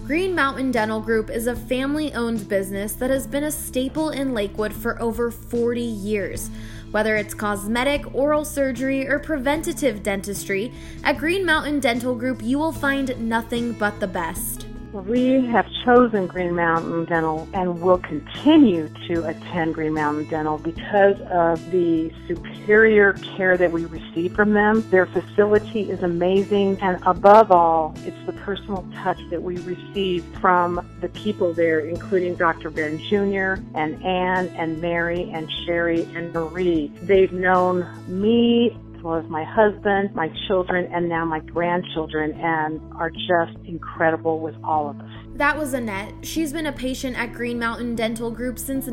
Green Mountain Dental Group is a family-owned business that has been a staple in Lakewood for over 40 years. Whether it's cosmetic, oral surgery, or preventative dentistry, at Green Mountain Dental Group you will find nothing but the best. We have chosen Green Mountain Dental and will continue to attend Green Mountain Dental because of the superior care that we receive from them. Their facility is amazing, and above all, it's the personal touch that we receive from the people there, including Dr. Ben Jr. and Ann and Mary and Sherry and Marie. They've known me as well as my husband, my children, and now my grandchildren, and are just incredible with all of us. That was Annette. She's been a patient at Green Mountain Dental Group since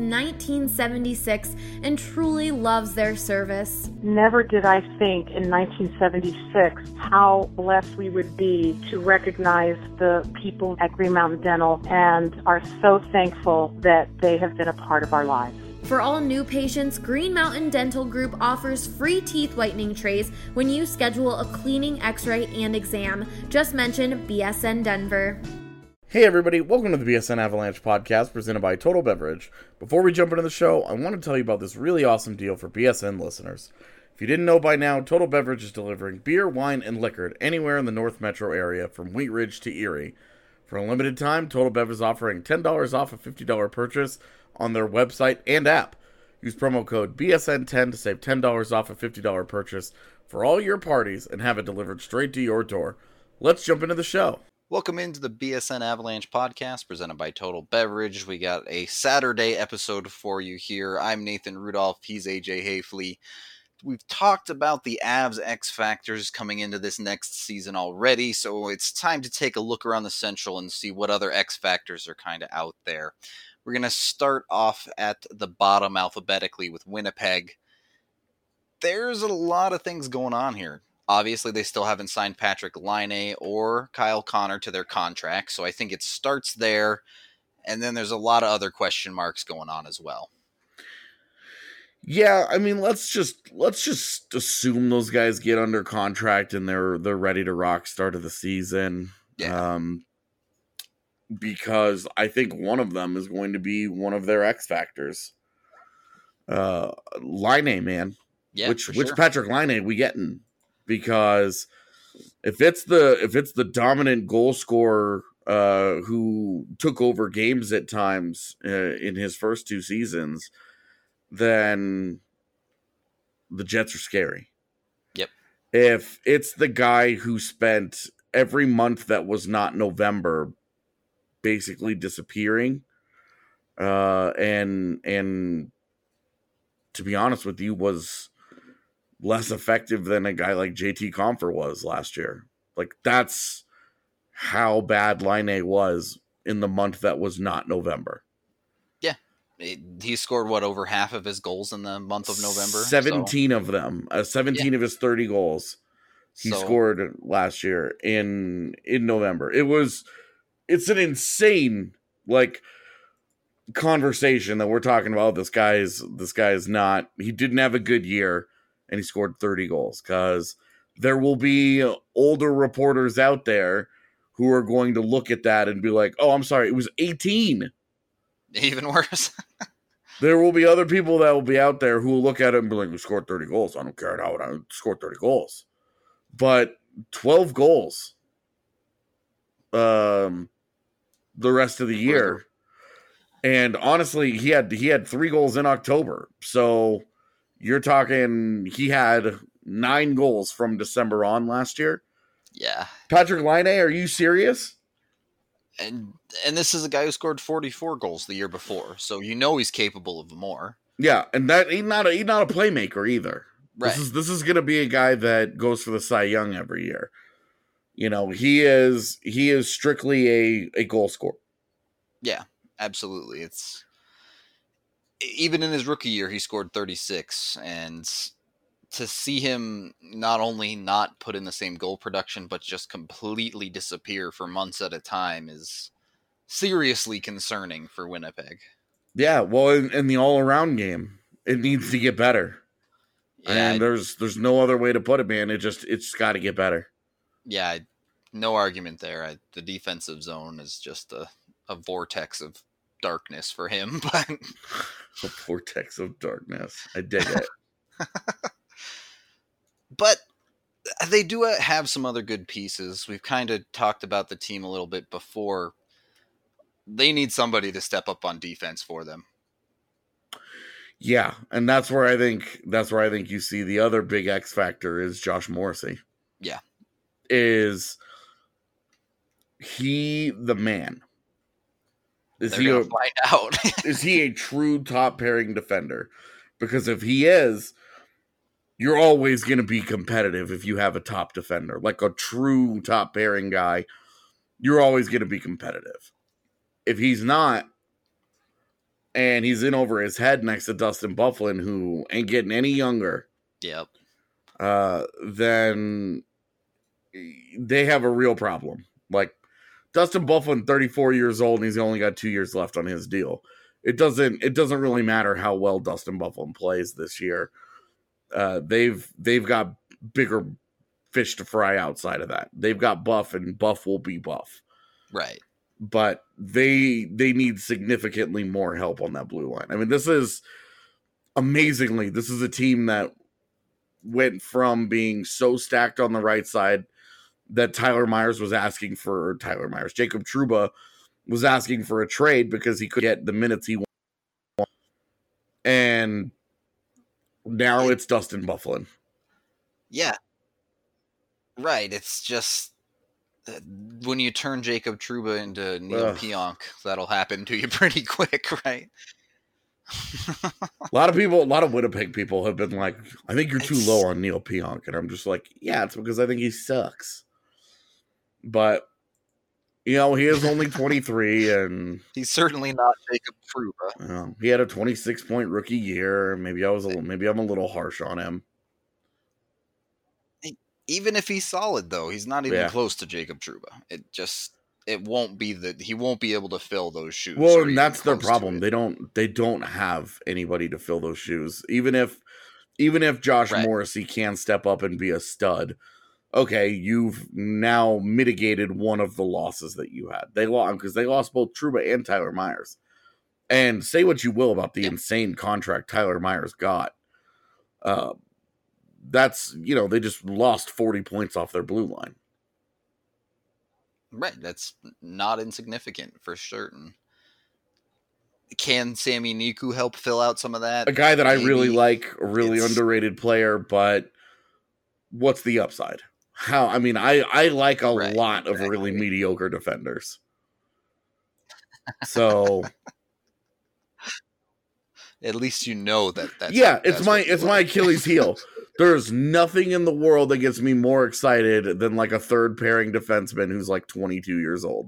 1976 and truly loves their service. Never did I think in 1976 how blessed we would be to recognize the people at Green Mountain Dental, and are so thankful that they have been a part of our lives. For all new patients, Green Mountain Dental Group offers free teeth whitening trays when you schedule a cleaning, x-ray, and exam. Just mention BSN Denver. Hey everybody, welcome to the BSN Avalanche podcast presented by Total Beverage. Before we jump into the show, I want to tell you about this really awesome deal for BSN listeners. If you didn't know by now, Total Beverage is delivering beer, wine, and liquor anywhere in the North Metro area from Wheat Ridge to Erie. For a limited time, Total Beverage is offering $10 off a $50 purchase on their website and app. Use promo code BSN10 to save $10 off a $50 purchase for all your parties and have it delivered straight to your door. Let's jump into the show. Welcome into the BSN Avalanche podcast presented by Total Beverage. We got a Saturday episode for you here. I'm Nathan Rudolph. He's AJ Hayfley. We've talked about the Avs X Factors coming into this next season already, so it's time to take a look around the Central and see what other X Factors are kind of out there. We're going to start off at the bottom alphabetically with Winnipeg. There's a lot of things going on here. Obviously, they still haven't signed Patrik Laine or Kyle Connor to their contract, so I think it starts there, and then there's a lot of other question marks going on as well. Yeah, I mean, let's just assume those guys get under contract and they're ready to rock start of the season. Yeah. Because I think one of them is going to be one of their X Factors. Laine, man. Yeah, which sure. Patrik Laine we getting? Because if it's the dominant goal scorer who took over games at times in his first two seasons, then the Jets are scary. Yep. If it's the guy who spent every month that was not November basically disappearing, and to be honest with you, was less effective than a guy like JT Compher was last year. Like, that's how bad Laine was in the month that was not November. Yeah. He scored, over half of his goals in the month of November? 17 of them. 17 of his 30 goals he scored last year in November. It's an insane, conversation that we're talking about. This guy is not, he didn't have a good year and he scored 30 goals, because there will be older reporters out there who are going to look at that and be like, oh, I'm sorry, it was 18. Even worse. There will be other people that will be out there who will look at it and be like, we scored 30 goals. I don't care how I scored 30 goals. But 12 goals the rest of the year. And honestly, he had 3 goals in October. So you're talking, he had 9 goals from December on last year. Yeah. Patrik Laine, are you serious? And this is a guy who scored 44 goals the year before, so he's capable of more. Yeah, and that he's not a playmaker either. Right. This is going to be a guy that goes for the Cy Young every year. He is strictly a goal scorer. Yeah, absolutely. It's even in his rookie year, he scored 36, and to see him not only not put in the same goal production, but just completely disappear for months at a time is seriously concerning for Winnipeg. Yeah, well, in the all-around game, it needs to get better. Yeah, and there's no other way to put it, man. It's got to get better. Yeah, No argument there. The defensive zone is just a vortex of darkness for him. But A vortex of darkness. I dig it. But they do have some other good pieces. We've kind of talked about the team a little bit before. They need somebody to step up on defense for them. Yeah, and that's where I think you see the other big X factor is Josh Morrissey. Yeah. Is he the man? They're gonna find out. Is he a true top pairing defender? Because if he is, you're always going to be competitive if you have a top defender. Like a true top pairing guy, you're always going to be competitive. If he's not, and he's in over his head next to Dustin Byfuglien, who ain't getting any younger, yep, then they have a real problem. Like, Dustin Byfuglien, 34 years old, and he's only got 2 years left on his deal. It doesn't really matter how well Dustin Byfuglien plays this year. They've got bigger fish to fry outside of that. They've got Buff, and Buff will be Buff. Right. But they need significantly more help on that blue line. I mean, this is a team that went from being so stacked on the right side that Jacob Trouba was asking for a trade because he could get the minutes he wanted. And now it's Dustin Byfuglien. Yeah. Right. It's just when you turn Jacob Trouba into Neil Pionk, that'll happen to you pretty quick, right? A lot of Winnipeg people have been like, I think you're too low on Neil Pionk. And I'm just like, yeah, it's because I think he sucks. But, you know, he is only 23, and he's certainly not Jacob Trouba. He had a 26-point rookie year. Maybe I'm a little harsh on him. Even if he's solid, though, he's not even close to Jacob Trouba. He won't be able to fill those shoes. Well, and that's their problem. They don't have anybody to fill those shoes. Even if Josh Morrissey can step up and be a stud, okay, you've now mitigated one of the losses that you had. They lost both Trouba and Tyler Myers. And say what you will about the insane contract Tyler Myers got. That's, they just lost 40 points off their blue line. Right. That's not insignificant for certain. Can Sami Niku help fill out some of that? A guy that maybe. I really like, a really underrated player, but what's the upside? I like a lot of really mediocre defenders. So at least you know that. It's my Achilles heel. There's nothing in the world that gets me more excited than like a third pairing defenseman who's like 22 years old.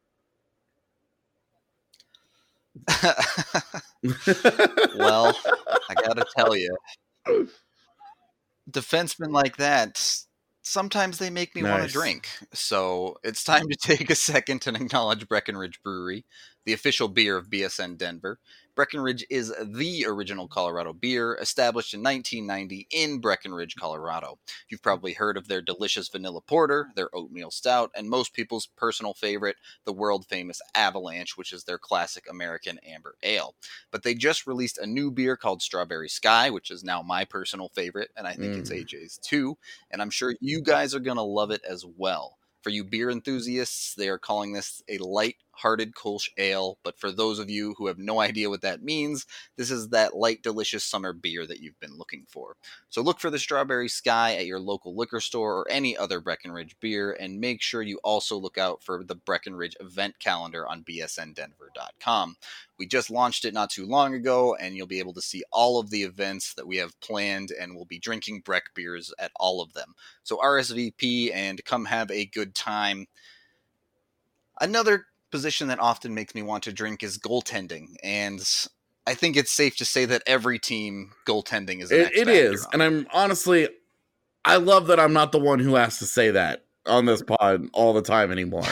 Well, I gotta tell you, defensemen like that, sometimes they make me want to drink. So it's time to take a second and acknowledge Breckenridge Brewery, the official beer of BSN Denver. Breckenridge is the original Colorado beer, established in 1990 in Breckenridge, Colorado. You've probably heard of their delicious vanilla porter, their oatmeal stout, and most people's personal favorite, the world-famous Avalanche, which is their classic American amber ale. But they just released a new beer called Strawberry Sky, which is now my personal favorite, and I think it's AJ's too, and I'm sure you guys are going to love it as well. For you beer enthusiasts, they are calling this a light-hearted Kolsch ale, but for those of you who have no idea what that means, this is that light, delicious summer beer that you've been looking for. So look for the Strawberry Sky at your local liquor store or any other Breckenridge beer, and make sure you also look out for the Breckenridge event calendar on bsndenver.com. We just launched it not too long ago, and you'll be able to see all of the events that we have planned, and we'll be drinking Breck beers at all of them. So RSVP and come have a good time. Another position that often makes me want to drink is goaltending, and I think it's safe to say that every team goaltending is an X factor. It is, and I love that I'm not the one who has to say that on this pod all the time anymore.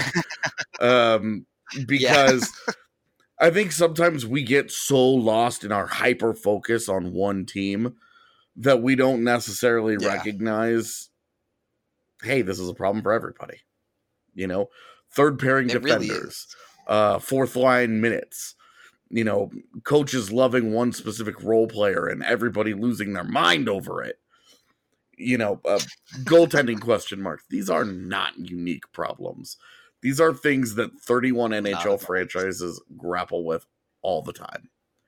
Because I think sometimes we get so lost in our hyper focus on one team that we don't necessarily recognize, hey, this is a problem for everybody. You know, third pairing It really defenders, is. fourth line minutes. You know, coaches loving one specific role player and everybody losing their mind over it. You know, goaltending question marks. These are not unique problems. These are things that 31 NHL franchises grapple with all the time.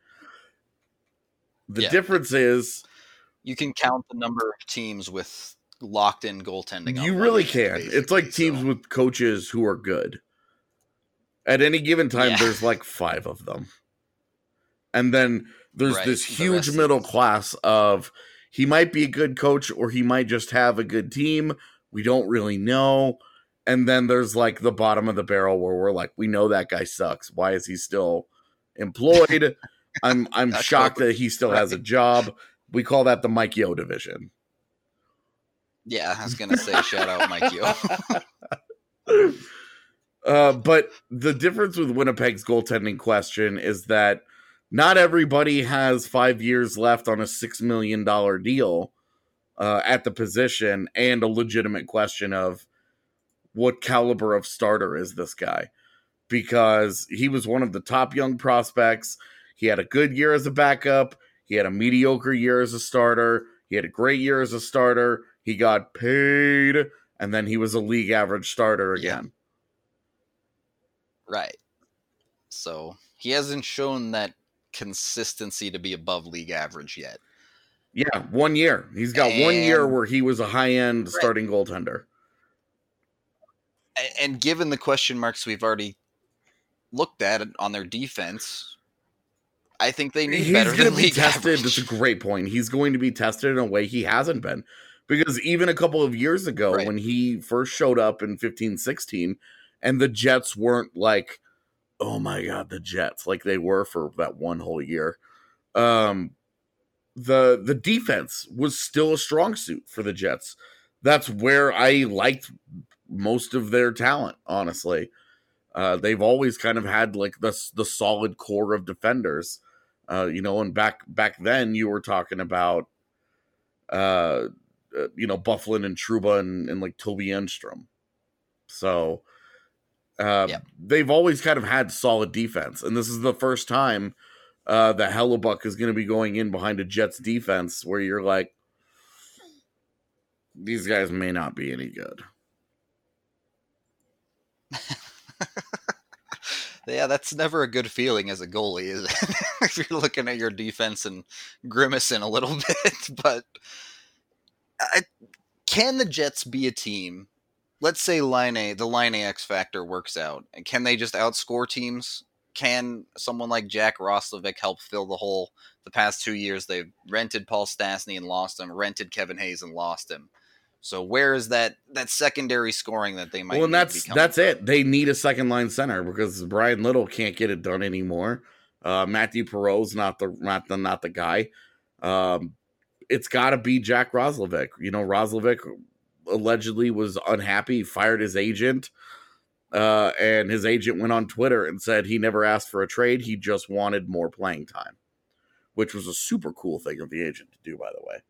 The difference is you can count the number of teams with locked in goaltending. You really can. It's like teams with coaches who are good. At any given time, there's like 5 of them. And then there's this huge middle class of he might be a good coach or he might just have a good team. We don't really know. And then there's like the bottom of the barrel where we're like, we know that guy sucks. Why is he still employed? I'm shocked that he still has a job. We call that the Mike Yeo division. Yeah, I was going to say shout out Mike Yeo. But the difference with Winnipeg's goaltending question is that not everybody has 5 years left on a $6 million deal at the position and a legitimate question of what caliber of starter is this guy? Because he was one of the top young prospects. He had a good year as a backup. He had a mediocre year as a starter. He had a great year as a starter. He got paid, and then he was a league average starter again. Yeah. Right. So he hasn't shown that consistency to be above league average yet. Yeah, 1 year. He's got 1 year where he was a high-end starting goaltender. And given the question marks we've already looked at on their defense, I think they need better than league average. That's a great point. He's going to be tested in a way he hasn't been. Because even a couple of years ago, when he first showed up in 15-16, and the Jets weren't like, oh my God, the Jets, like they were for that one whole year. The defense was still a strong suit for the Jets. That's where I liked most of their talent, honestly. They've always kind of had like the solid core of defenders. And back then you were talking about Bufflin and Trouba and like Toby Enstrom. So they've always kind of had solid defense. And this is the first time that Hellebuck is going to be going in behind a Jets defense where you're like, these guys may not be any good. Yeah, that's never a good feeling as a goalie, is it? If you're looking at your defense and grimacing a little bit. But can the Jets be a team? Let's say the Line A X factor works out. And can they just outscore teams? Can someone like Jack Roslovic help fill the hole? The past 2 years, they've rented Paul Stastny and lost him, rented Kevin Hayes and lost him. So where is that secondary scoring that they might? Well, and that's it. They need a second line center because Brian Little can't get it done anymore. Matthew Perreault's not the guy. It's got to be Jack Roslovic. Roslovic allegedly was unhappy, fired his agent, and his agent went on Twitter and said he never asked for a trade. He just wanted more playing time, which was a super cool thing of the agent to do, by the way.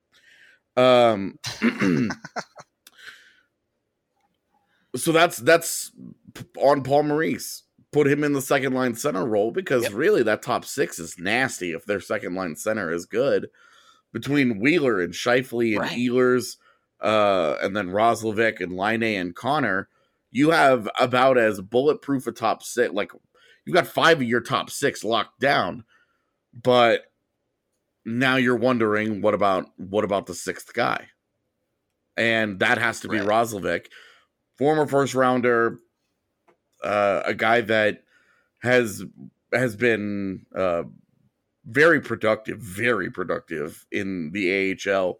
So that's on Paul Maurice. Put him in the second line center role because really that top 6 is nasty if their second line center is good. Between Wheeler and Scheifele and Ehlers, and then Roslovic and Line and Connor, you have about as bulletproof a top 6. Like you've got 5 of your top 6 locked down, but now you're wondering what about the 6th guy, and that has to be Roslovic, former first rounder, a guy that has been very productive in the AHL.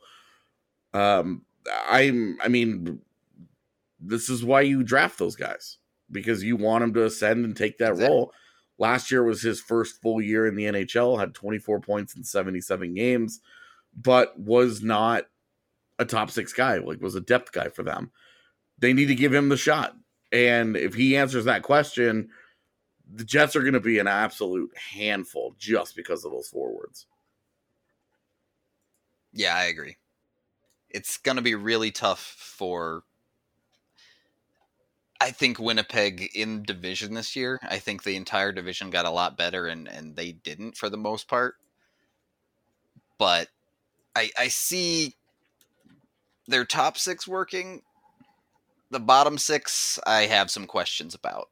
This is why you draft those guys, because you want them to ascend and take that role. Last year was his first full year in the NHL, had 24 points in 77 games, but was not a top 6 guy, was a depth guy for them. They need to give him the shot. And if he answers that question, the Jets are going to be an absolute handful just because of those forwards. Yeah, I agree. It's going to be really tough for I think Winnipeg in division this year, I think the entire division got a lot better, and they didn't for the most part. But I see their top six working. The bottom six, I have some questions about.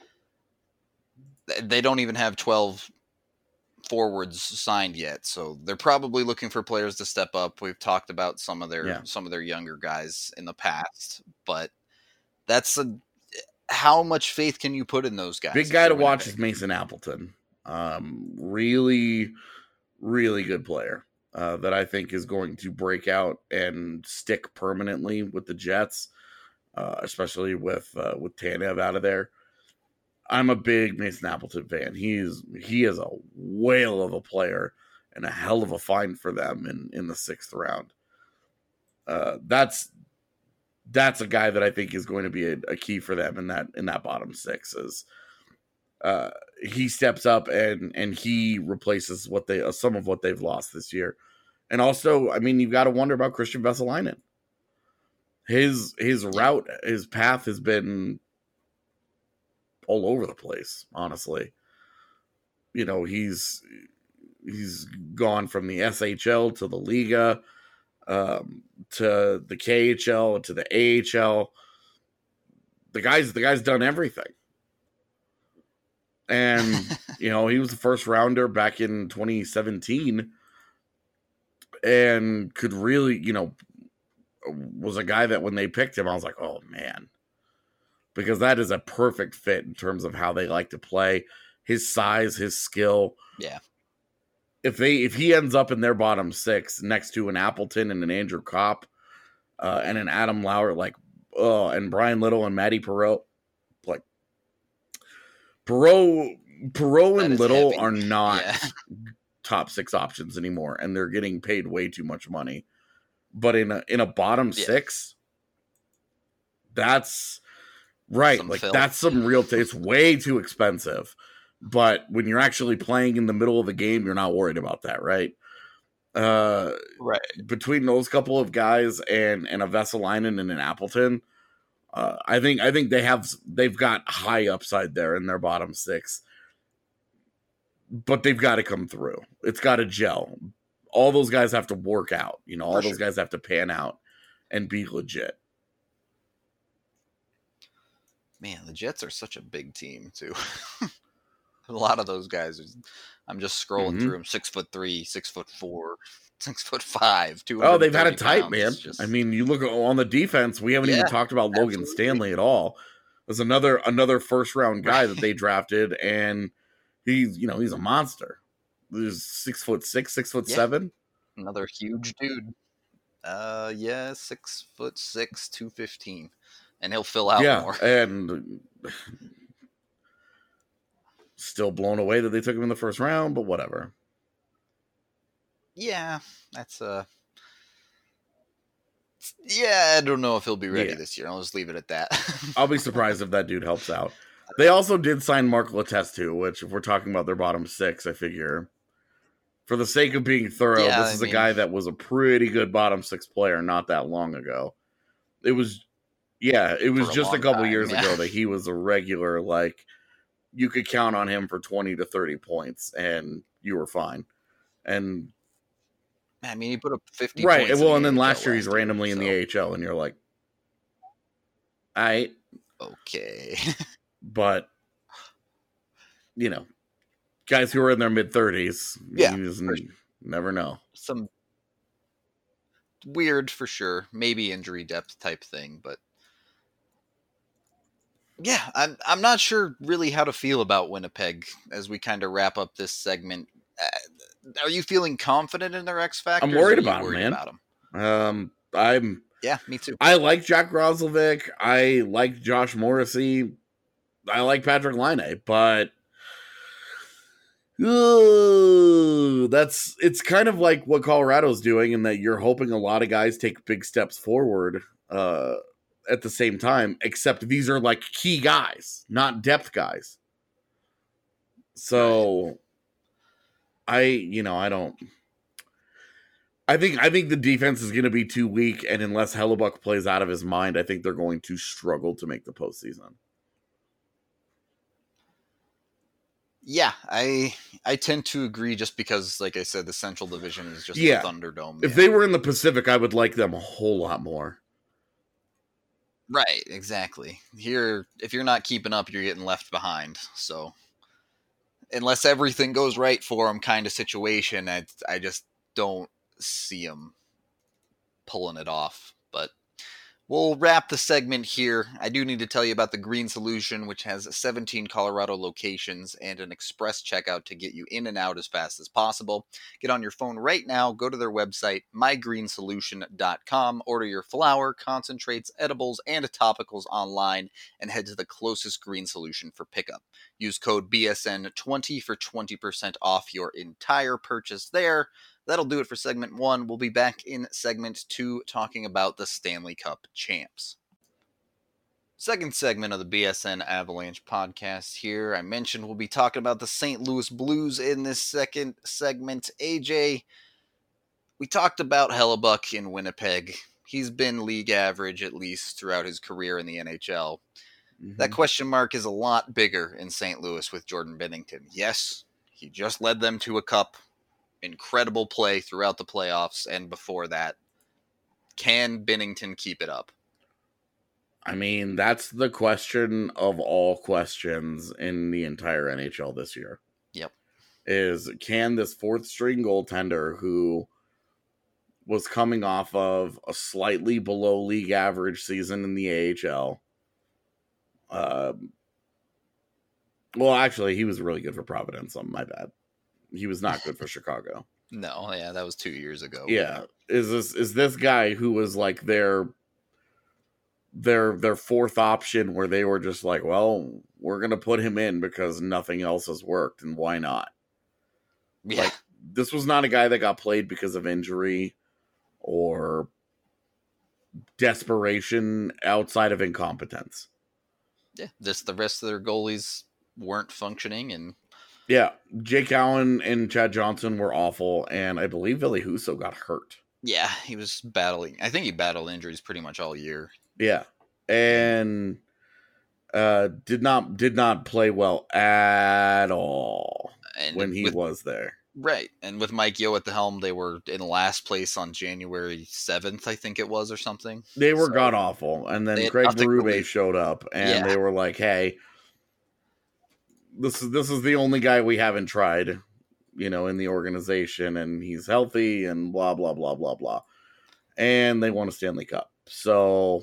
They don't even have 12 forwards signed yet, so they're probably looking for players to step up. We've talked about some of their younger guys in the past, but that's how much faith can you put in those guys? Big guy to watch is Mason Appleton. Really, really good player that I think is going to break out and stick permanently with the Jets, especially with Tanev out of there. I'm a big Mason Appleton fan. He is a whale of a player and a hell of a find for them in the 6th round. That's a guy that I think is going to be a key for them in that bottom 6. Is he steps up and he replaces some of what they've lost this year. And also, I mean, you've got to wonder about Christian Vesalainen. His route, his path has been all over the place, honestly. You know, he's gone from the SHL to the Liga, to the KHL, to the AHL. The guy's done everything. And, you know, he was the first rounder back in 2017 and could really, you know, was a guy that when they picked him, I was like, oh man. Because that is a perfect fit in terms of how they like to play, his size, his skill. Yeah. If he ends up in their bottom 6 next to an Appleton and an Andrew Kopp, and an Adam Lauer, and Brian Little and Matty Perreault, like Perreault and Little heavy. are not top 6 options anymore, and they're getting paid way too much money. But in a bottom 6, that's right. That's some real. It's way too expensive. But when you're actually playing in the middle of the game, you're not worried about that, right? Right. Between those couple of guys and a Vesalainen and an Appleton, I think they've got high upside there in their bottom 6. But they've got to come through. It's got to gel. All those guys have to work out. You know, all those guys have to pan out and be legit. Man, the Jets are such a big team too. A lot of those guys. I'm just scrolling through them. 6'3", 6'4", 6'5". Oh, they've had it tight, man. I mean, you look on the defense. We haven't even talked about Logan Stanley at all. There's another first round guy that they drafted, and he's a monster. He's 6'6", 6'7". Another huge dude. 6'6", 215, and he'll fill out more. And still blown away that they took him in the first round, but whatever. Yeah, that's I don't know if he'll be ready this year. I'll just leave it at that. I'll be surprised if that dude helps out. They also did sign Mark Letestu, which, if we're talking about their bottom 6, I figure, for the sake of being thorough, this is a guy that was a pretty good bottom 6 player not that long ago. It was just a couple years ago that he was a regular, you could count on him for 20 to 30 points, and you were fine. And I mean, he put up 50 right, points. well, and then last year he's randomly in the AHL, and you're like, all right. Okay. But, you know, guys who are in their mid-30s, you just never know. Some weird, for sure. Maybe injury depth type thing, but yeah, I'm not sure really how to feel about Winnipeg as we kind of wrap up this segment. Are you feeling confident in their X factor? I'm worried about them, man. Yeah, me too. I like Jack Roslovic. I like Josh Morrissey. I like Patrick Laine, but it's kind of like what Colorado's doing, in that you're hoping a lot of guys take big steps forward at the same time, except these are key guys, not depth guys. So I don't. I think the defense is going to be too weak, and unless Hellebuck plays out of his mind, I think they're going to struggle to make the postseason. Yeah, I tend to agree just because, like I said, the Central Division is just the Thunderdome. If they were in the Pacific, I would like them a whole lot more. Right, exactly. Here, if you're not keeping up, you're getting left behind. So, unless everything goes right for them kind of situation, I just don't see them pulling it off. But we'll wrap the segment here. I do need to tell you about the Green Solution, which has 17 Colorado locations and an express checkout to get you in and out as fast as possible. Get on your phone right now, go to their website, mygreensolution.com, order your flour, concentrates, edibles, and topicals online, and head to the closest Green Solution for pickup. Use code BSN20 for 20% off your entire purchase there. That'll do it for segment 1. We'll be back in segment 2 talking about the Stanley Cup champs. Second segment of the BSN Avalanche podcast here. I mentioned we'll be talking about the St. Louis Blues in this second segment. AJ, we talked about Hellebuck in Winnipeg. He's been league average at least throughout his career in the NHL. Mm-hmm. That question mark is a lot bigger in St. Louis with Jordan Binnington. Yes, he just led them to a cup. Incredible play throughout the playoffs and before that. Can Binnington keep it up? I mean, that's the question of all questions in the entire NHL this year. Yep. Is can this fourth string goaltender who was coming off of a slightly below league average season in the AHL. Well, actually, he was really good for Providence. My bad. He was not good for Chicago. No, yeah, that was 2 years ago. Yeah, is this guy who was like their fourth option, where they were just like, well, we're gonna put him in because nothing else has worked, and why not? Yeah, like, this was not a guy that got played because of injury or desperation outside of incompetence. Yeah, the rest of their goalies weren't functioning, and yeah, Jake Allen and Chad Johnson were awful, and I believe Ville Husso got hurt. Yeah, he was battling. I think he battled injuries pretty much all year. Yeah, and did not play well at all when he was there. Right, and with Mike Yeo at the helm, they were in last place on January 7th, I think it was, or something. They were god awful, and then Craig Berube showed up, and they were like, "Hey, this is the only guy we haven't tried, in the organization, and he's healthy, and blah blah blah blah blah," and they won a Stanley Cup. So,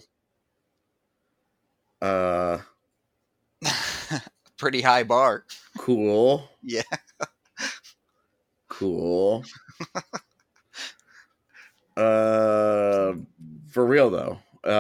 pretty high bar. Cool. Yeah. Cool. For real though,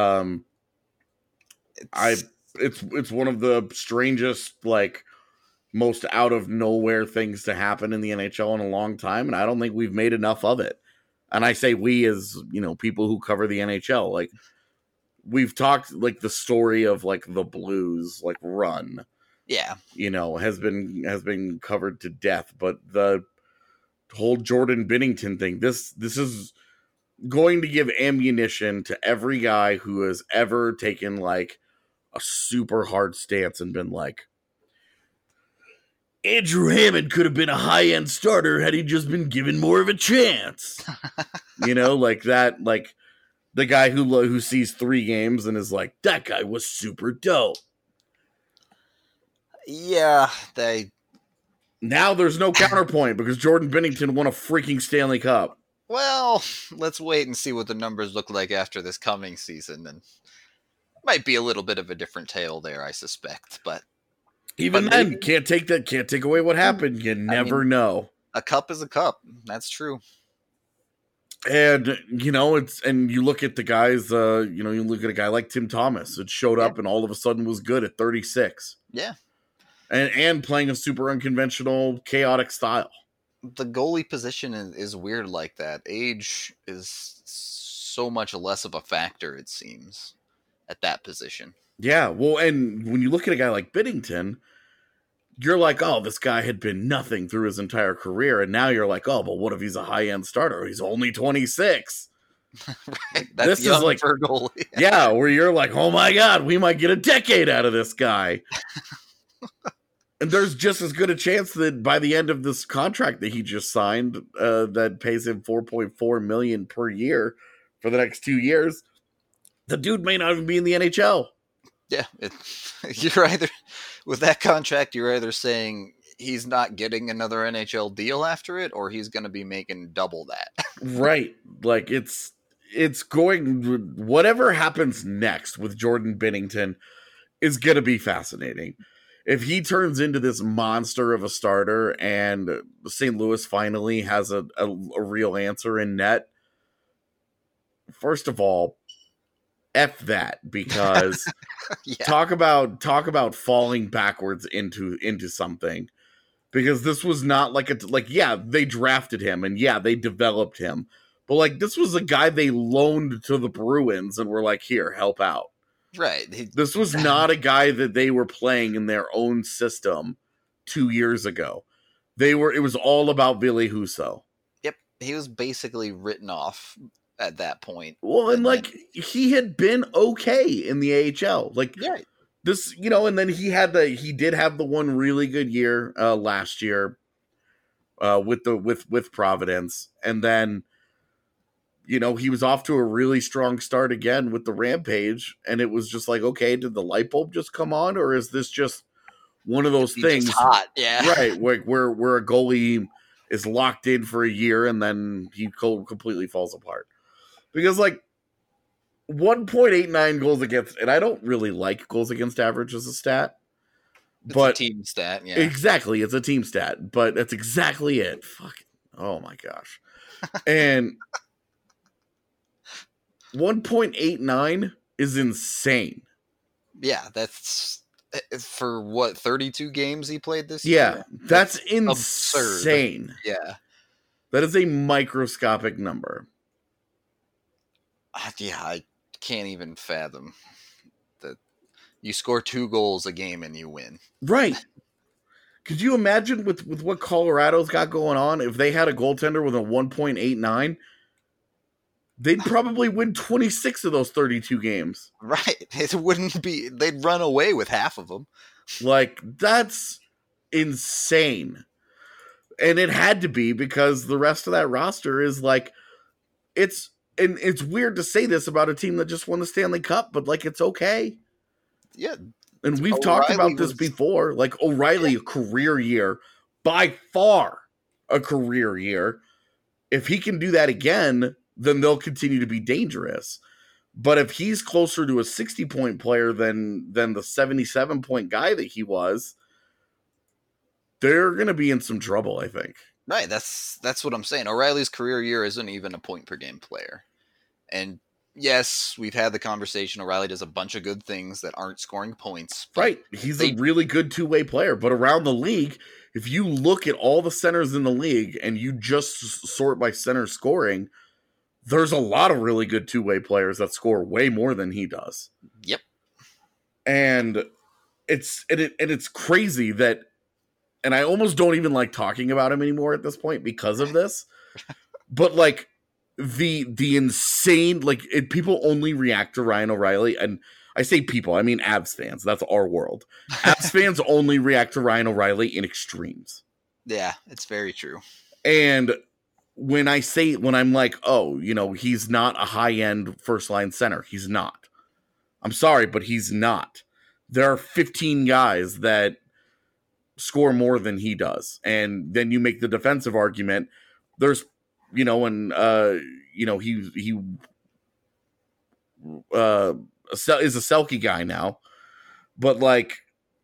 it's one of the strangest, most out of nowhere things to happen in the NHL in a long time, and I don't think we've made enough of it. And I say we as, people who cover the NHL. We've talked, the story of, the Blues, run. Yeah. Has been covered to death, but the whole Jordan Binnington thing, this is going to give ammunition to every guy who has ever taken, a super hard stance and been like, Andrew Hammond could have been a high-end starter had he just been given more of a chance. The guy who sees 3 games and is like, that guy was super dope. Yeah, Now there's no counterpoint because Jordan Binnington won a freaking Stanley Cup. Well, let's wait and see what the numbers look like after this coming season, and might be a little bit of a different tale there, I suspect, but even then, can't take away what happened. You never know. A cup is a cup. That's true. And, and you look at the guys, you look at a guy like Tim Thomas that showed up and all of a sudden was good at 36. Yeah. And playing a super unconventional, chaotic style. The goalie position is weird like that. Age is so much less of a factor, it seems, at that position. Yeah, well, and when you look at a guy like Binnington, you're like, oh, this guy had been nothing through his entire career, and now you're like, oh, but what if he's a high-end starter? He's only 26. Right. That's This is young like, for a goalie. yeah, where you're like, oh my god, we might get a decade out of this guy. And there's just as good a chance that by the end of this contract that he just signed, that pays him $4.4 million per year for the next 2 years, the dude may not even be in the NHL. Yeah, you're either with that contract, you're either saying he's not getting another NHL deal after it, or he's going to be making double that. Right. Like it's going, whatever happens next with Jordan Binnington is going to be fascinating. If he turns into this monster of a starter and St. Louis finally has a real answer in net, first of all, F that, because Yeah. talk about falling backwards into something. Because this was not yeah, they drafted him and yeah, they developed him. But like, this was a guy they loaned to the Bruins and were like, here, help out. Right. This was not a guy that they were playing in their own system 2 years ago. It was all about Ville Husso. Yep. He was basically written off at that point. Well, and like, he had been okay in the AHL. Like, Yeah. this, and then he did have the one really good year last year with Providence. And then, he was off to a really strong start again with the Rampage. And it was just like, okay, did the light bulb just come on? Or is this just one of those things? Hot. Yeah. Right. Where a goalie is locked in for a year and then he completely falls apart. Because like, 1.89 goals against, and I don't really like goals against average as a stat. But it's a team stat, yeah. Exactly, it's a team stat, but that's exactly it. Fuck. Oh my gosh. And 1.89 is insane. Yeah, that's for what, 32 games he played this year? year? That's insane. Absurd. Yeah. That is a microscopic number. Yeah, I can't even fathom that you score 2 goals a game and you win. Right. Could you imagine with what Colorado's got going on, if they had a goaltender with a 1.89, they'd probably win 26 of those 32 games. Right. It wouldn't be, they'd run away with half of them. Like, that's insane. And it had to be, because the rest of that roster is like, it's weird to say this about a team that just won the Stanley Cup, but like, it's okay. Yeah. And we've talked about this before. Like, O'Reilly, a career year, by far a career year. If he can do that again, then they'll continue to be dangerous. But if he's closer to a 60-point player than the 77-point guy that he was, they're going to be in some trouble, I think. Right, that's what I'm saying. O'Reilly's career year isn't even a point-per-game player. And yes, we've had the conversation. O'Reilly does a bunch of good things that aren't scoring points. Right, he's a really good two-way player. But around the league, if you look at all the centers in the league and you just sort by center scoring, there's a lot of really good two-way players that score way more than he does. Yep. And it's crazy that, and I almost don't even like talking about him anymore at this point because of this. But like the insane, like, people only react to Ryan O'Reilly, and I say people, I mean Avs fans. That's our world. Avs fans only react to Ryan O'Reilly in extremes. Yeah, it's very true. And when I'm like, oh, he's not a high-end first-line center. He's not. I'm sorry, but he's not. There are 15 guys that score more than he does. And then you make the defensive argument. There's, he is a Selke guy now. But like,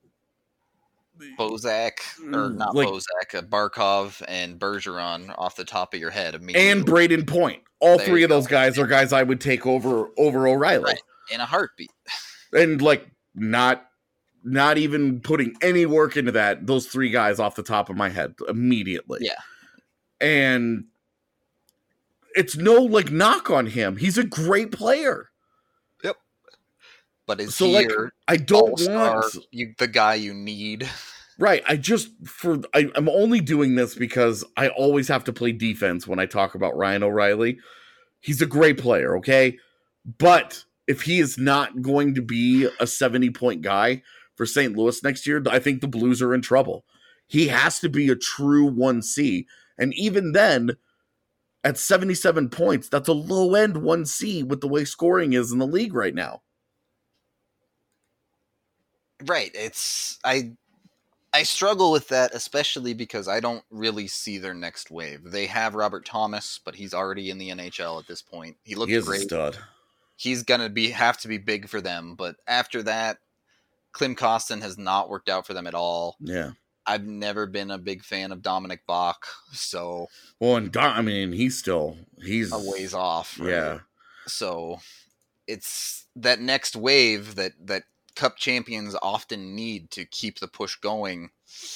Bozak, or not like, Bozak, Barkov and Bergeron off the top of your head immediately. And Braden Point. All there three of those guys are guys I would take over O'Reilly. Right. In a heartbeat. And like, not even putting any work into that, those three guys off the top of my head immediately. Yeah. And it's no like knock on him. He's a great player. But is he I don't want the guy you need Right. I'm only doing this because I always have to play defense when I talk about Ryan O'Reilly. He's a great player, okay? But if he is not going to be a 70-point guy for St. Louis next year, I think the Blues are in trouble. He has to be a true 1C. And even then, at 77 points, that's a low-end 1C with the way scoring is in the league right now. Right. I struggle with that, especially because I don't really see their next wave. They have Robert Thomas, but he's already in the NHL at this point. He looks great. A stud. He's gonna have to be big for them, but after that, Klim Kostin has not worked out for them at all. Yeah. I've never been a big fan of Dominic Bach, so he's a ways off. Right? Yeah. So it's that next wave that Cup champions often need to keep the push going.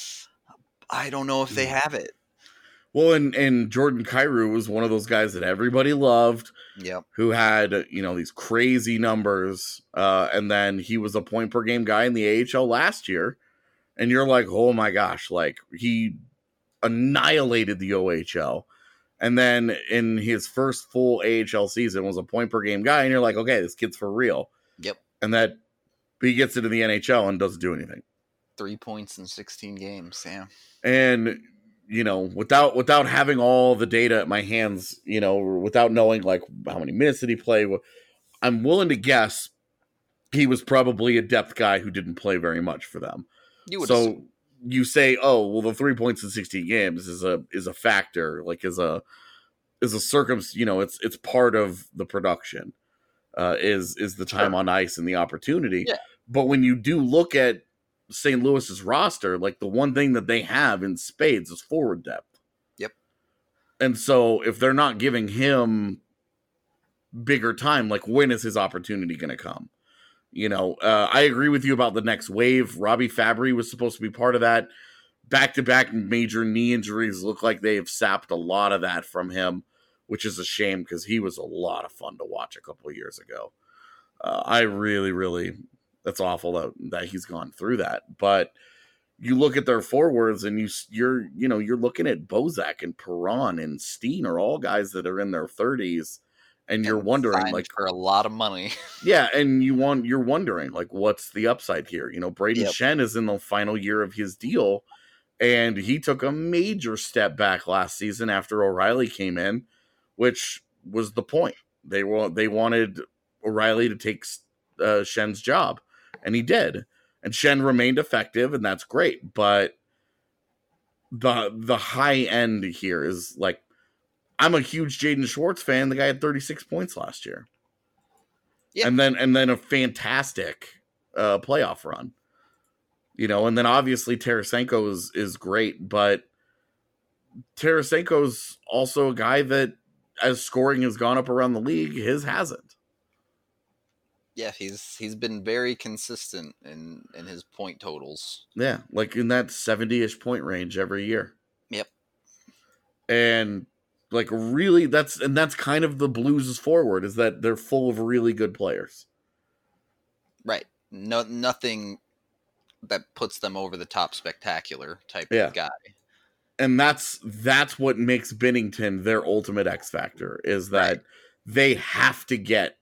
I don't know if they have it. Well, and Jordan Kyrou was one of those guys that everybody loved. Yep. Who had, these crazy numbers. And then he was a point per game guy in the AHL last year. And you're like, oh my gosh, like he annihilated the OHL. And then in his first full AHL season was a point per game guy. And you're like, okay, this kid's for real. Yep. And that he gets into the NHL and doesn't do anything. 3 points in 16 games. Yeah. And, without having all the data at my hands, without knowing like how many minutes did he play, I'm willing to guess he was probably a depth guy who didn't play very much for them. So you say, oh, well, the 3 points in 16 games is a factor, like is a circumstance, it's part of the production, is the time on ice and the opportunity. Yeah. But when you do look at St. Louis's roster, like the one thing that they have in spades is forward depth. Yep. And so if they're not giving him bigger time, like when is his opportunity going to come? I agree with you about the next wave. Robbie Fabry was supposed to be part of that. Back-to-back major knee injuries look like they have sapped a lot of that from him, which is a shame because he was a lot of fun to watch a couple of years ago. I really, that's awful that he's gone through that. But you look at their forwards and you're looking at Bozak and Perron and Steen are all guys that are in their 30s. And you're wondering, like, for a lot of money. Yeah, and you're wondering, like, what's the upside here? Brayden Schenn is in the final year of his deal, and he took a major step back last season after O'Reilly came in, which was the point. They wanted O'Reilly to take Schenn's job, and he did. And Schenn remained effective, and that's great. But the high end here is like, I'm a huge Jaden Schwartz fan. The guy had 36 points last year. Yeah. And then a fantastic playoff run. And then obviously Tarasenko is great, but Tarasenko's also a guy that, as scoring has gone up around the league, his hasn't. Yeah, he's been very consistent in his point totals. Yeah, like in that 70-ish point range every year. Yep. And like really, that's kind of the Blues' forward, is that they're full of really good players. Right. Nothing that puts them over the top spectacular type of guy. And that's what makes Binnington their ultimate X factor, is that they have to get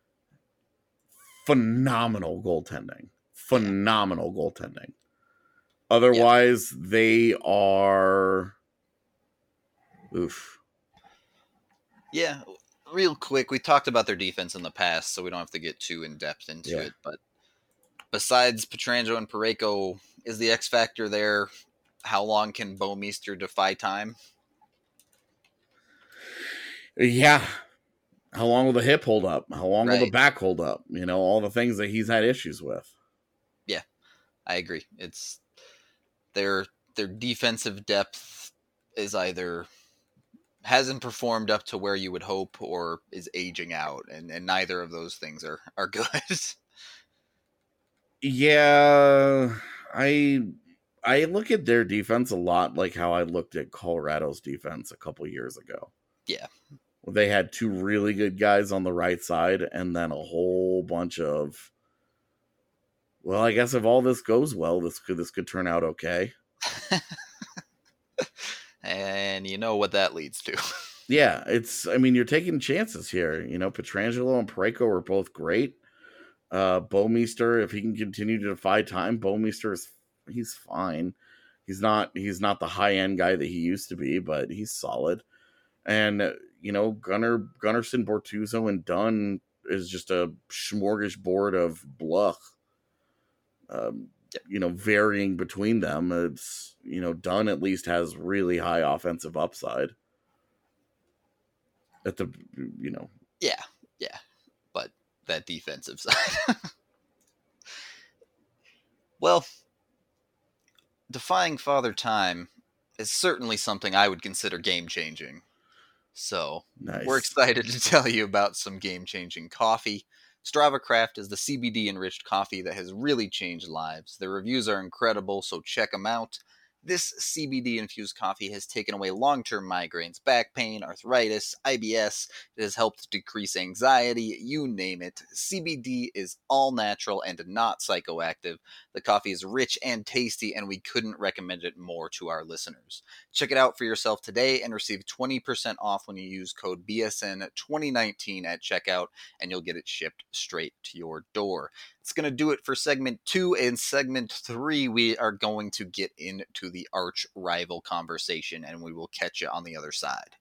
phenomenal goaltending. Otherwise, they are oof. Yeah, real quick, we talked about their defense in the past, so we don't have to get too in-depth into it, but besides Pietrangelo and Parayko, is the X factor there? How long can Bouwmeester defy time? Yeah. How long will the hip hold up? How long will the back hold up? All the things that he's had issues with. Yeah, I agree. It's their defensive depth is either hasn't performed up to where you would hope or is aging out, and neither of those things are good. Yeah, I look at their defense a lot like how I looked at Colorado's defense a couple years ago. Yeah. They had two really good guys on the right side and then a whole bunch of Well, I guess if all this goes well, this could turn out okay. And you know what that leads to. Yeah, you're taking chances here. Pietrangelo and Parayko are both great. Bouwmeester, if he can continue to defy time, he's fine. He's not the high end guy that he used to be, but he's solid. And Gunnarsson, Bortuzzo, and Dunn is just a smorgasbord of bluff. Varying between them. It's Dunn at least has really high offensive upside. At the Yeah, but that defensive side. Well, defying Father Time is certainly something I would consider game-changing. So, nice. We're excited to tell you about some game-changing coffee. Strava Craft is the CBD-enriched coffee that has really changed lives. Their reviews are incredible, so check them out. This CBD-infused coffee has taken away long-term migraines, back pain, arthritis, IBS. It has helped decrease anxiety, you name it. CBD is all natural and not psychoactive. The coffee is rich and tasty, and we couldn't recommend it more to our listeners. Check it out for yourself today and receive 20% off when you use code BSN2019 at checkout, and you'll get it shipped straight to your door. It's going to do it for segment 2. In segment 3, we are going to get into the arch rival conversation, and we will catch you on the other side.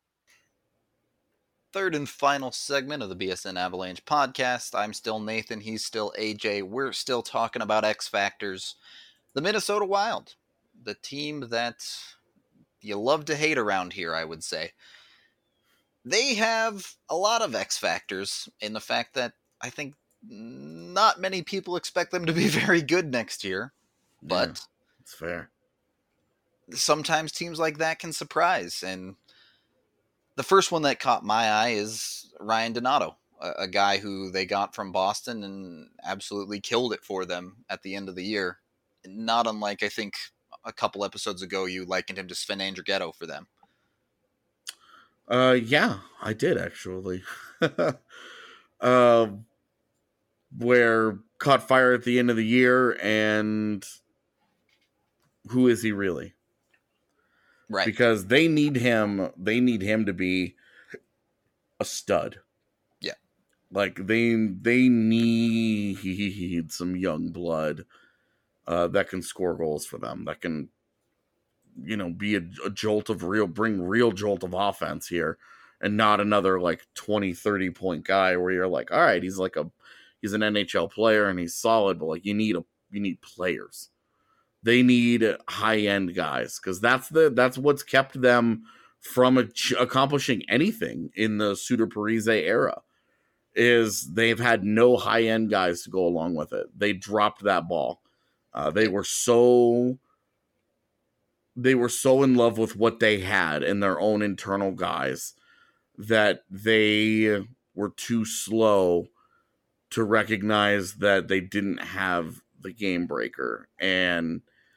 Third and final segment of the BSN Avalanche podcast. I'm still Nathan. He's still AJ. We're still talking about X Factors. The Minnesota Wild, the team that you love to hate around here, I would say. They have a lot of X Factors in the fact that I think not many people expect them to be very good next year, but it's fair. Sometimes teams like that can surprise, and the first one that caught my eye is Ryan Donato, a guy who they got from Boston and absolutely killed it for them at the end of the year. Not unlike, I think, a couple episodes ago, you likened him to Sven Andrighetto for them. Yeah, I did actually. Where caught fire at the end of the year, and who is he really? Right. Because they need him to be a stud. Yeah. Like they need some young blood that can score goals for them, that can be a jolt of bring real jolt of offense here, and not another like 20-30 point guy where you're like, all right, he's an NHL player and he's solid, but like you need players. They need high-end guys, because that's what's kept them from accomplishing anything in the Suter Parise era, is they've had no high-end guys to go along with it. They dropped that ball. They were so in love with what they had and their own internal guys that they were too slow to recognize that they didn't have the game breaker. And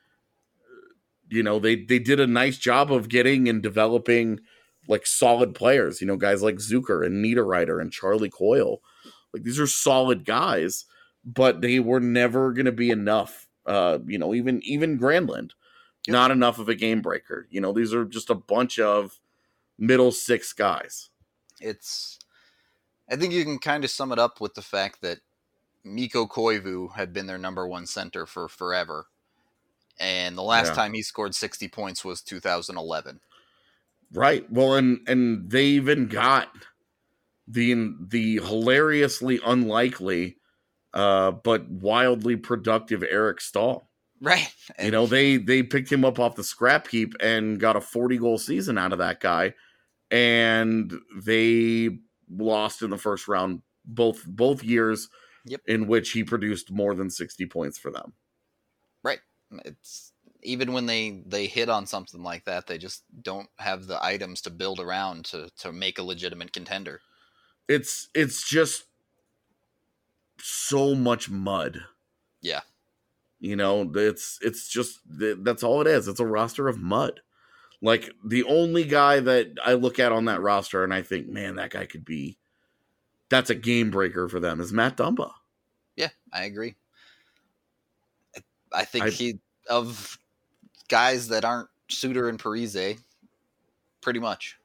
they did a nice job of getting and developing like solid players, guys like Zucker and Niederreiter and Charlie Coyle. Like, these are solid guys, but they were never going to be enough. Even Granlund, not enough of a game breaker. These are just a bunch of middle six guys. I think you can kind of sum it up with the fact that Mikko Koivu had been their number one center for forever. And the last time he scored 60 points was 2011. Right. Well, and they even got the hilariously unlikely but wildly productive Eric Stahl. Right. They picked him up off the scrap heap and got a 40-goal season out of that guy. And they lost in the first round both years in which he produced more than 60 points for them. Right. It's even when they hit on something like that, they just don't have the items to build around to make a legitimate contender. It's just so much mud. Yeah. It's just, that's all it is. It's a roster of mud. Like, the only guy that I look at on that roster and I think, man, that guy that's a game breaker for them, is Matt Dumba. Yeah, I agree. I think of guys that aren't Suter and Parise, pretty much.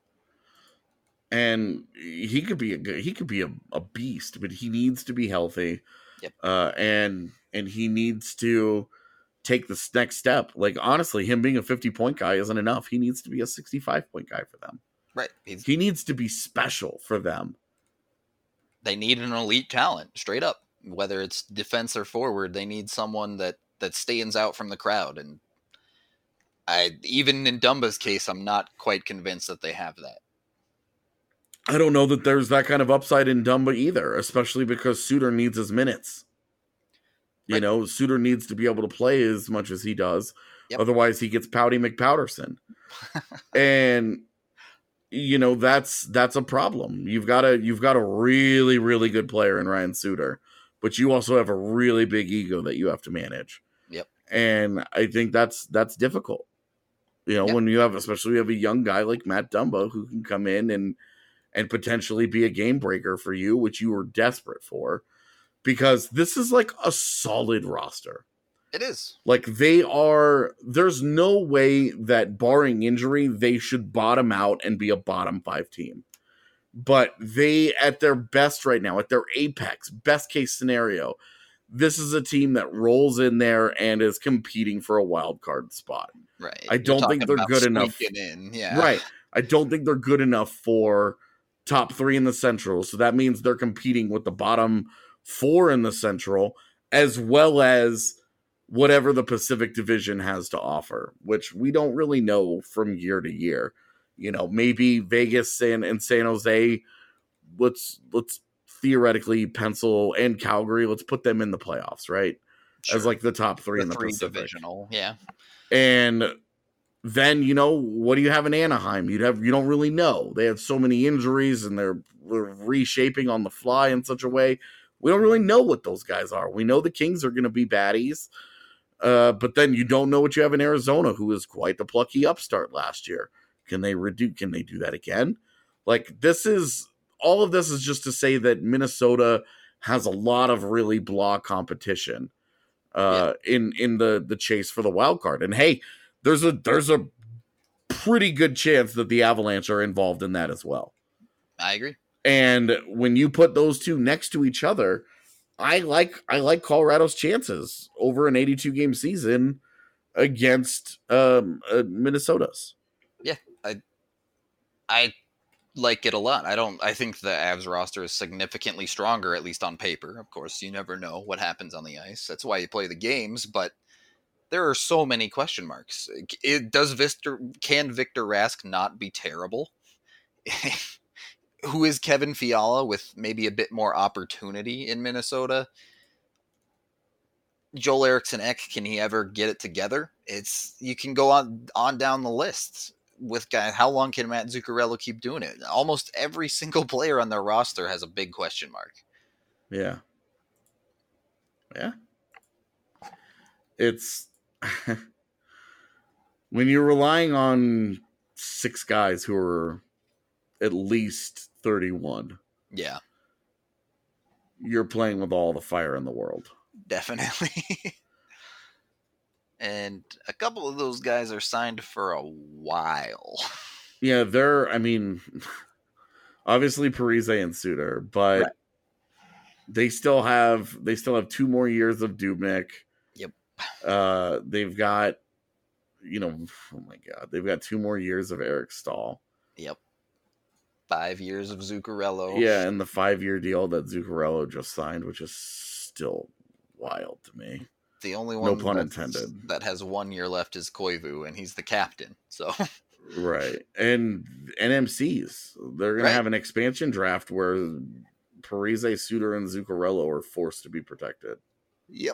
And he could be a beast, but he needs to be healthy. Yep. And he needs to take this next step. Like, honestly, him being a 50-point guy isn't enough. He needs to be a 65-point guy for them. Right. He needs to be special for them. They need an elite talent, straight up. Whether it's defense or forward, they need someone that stands out from the crowd. And even in Dumba's case, I'm not quite convinced that they have that. I don't know that there's that kind of upside in Dumba either, especially because Suter needs his minutes. You know, Suter needs to be able to play as much as he does. Yep. Otherwise, he gets Pouty McPowderson. And, you know, that's a problem. You've got a really, really good player in Ryan Suter, but you also have a really big ego that you have to manage. Yep. And I think that's difficult. You know, when you have a young guy like Matt Dumba who can come in and potentially be a game breaker for you, which you were desperate for, because this is like a solid roster. It is. Like, there's no way that, barring injury, they should bottom out and be a bottom 5 team. But they, at their best right now, at their apex, best case scenario, this is a team that rolls in there and is competing for a wild card spot. Right. I don't think they're good enough. Yeah. Right. I don't think they're good enough for top 3 in the Central. So that means they're competing with the bottom 4 in the Central, as well as whatever the Pacific Division has to offer, which we don't really know from year to year. You know, maybe Vegas and San Jose, let's theoretically pencil, and Calgary, let's put them in the playoffs, right? Sure. As like the top 3 in the Pacific. Divisional, yeah. And then, you know, what do you have in Anaheim? You don't really know. They have so many injuries and they're reshaping on the fly in such a way. We don't really know what those guys are. We know the Kings are going to be baddies. But then you don't know what you have in Arizona, who was quite the plucky upstart last year. Can they do that again? Like, all of this is just to say that Minnesota has a lot of really blah competition in the chase for the wild card. And hey, there's a pretty good chance that the Avalanche are involved in that as well. I agree. And when you put those two next to each other, I like Colorado's chances over an 82-game season against Minnesota's. Yeah, I like it a lot. I think the Avs roster is significantly stronger, at least on paper. Of course, you never know what happens on the ice. That's why you play the games, but there are so many question marks. Can Victor Rask not be terrible? Who is Kevin Fiala with maybe a bit more opportunity in Minnesota? Joel Eriksson Ek, can he ever get it together? You can go on down the list with guys. How long can Matt Zuccarello keep doing it? Almost every single player on their roster has a big question mark. Yeah. Yeah. It's when you're relying on 6 guys who are at least 31. Yeah. You're playing with all the fire in the world. Definitely. And a couple of those guys are signed for a while. Yeah, obviously Parise and Suter, but right. they still have 2 more years of Dubnyk. Yep. They've got, oh my God, they've got 2 more years of Eric Stahl. Yep. 5 years of Zuccarello. Yeah, and the 5-year deal that Zuccarello just signed, which is still wild to me. The only one, no pun intended, that has 1 year left is Koivu, and he's the captain. So right, and NMCs, they're gonna have an expansion draft where Parise, Suter, and Zuccarello are forced to be protected. Yep.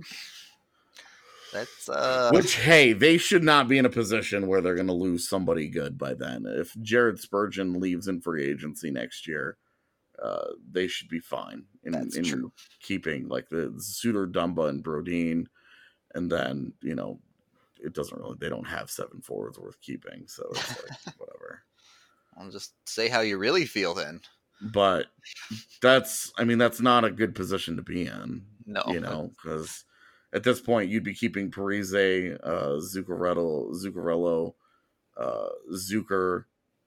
That's which, hey, they should not be in a position where they're going to lose somebody good by then. If Jared Spurgeon leaves in free agency next year, they should be fine in keeping like the Suter, Dumba, and Brodin, and then it doesn't really. They don't have 7 forwards worth keeping, so it's like whatever. I'll just say how you really feel then. But that's not a good position to be in. No, because at this point, you'd be keeping Parise, Zuccarello, Zucker,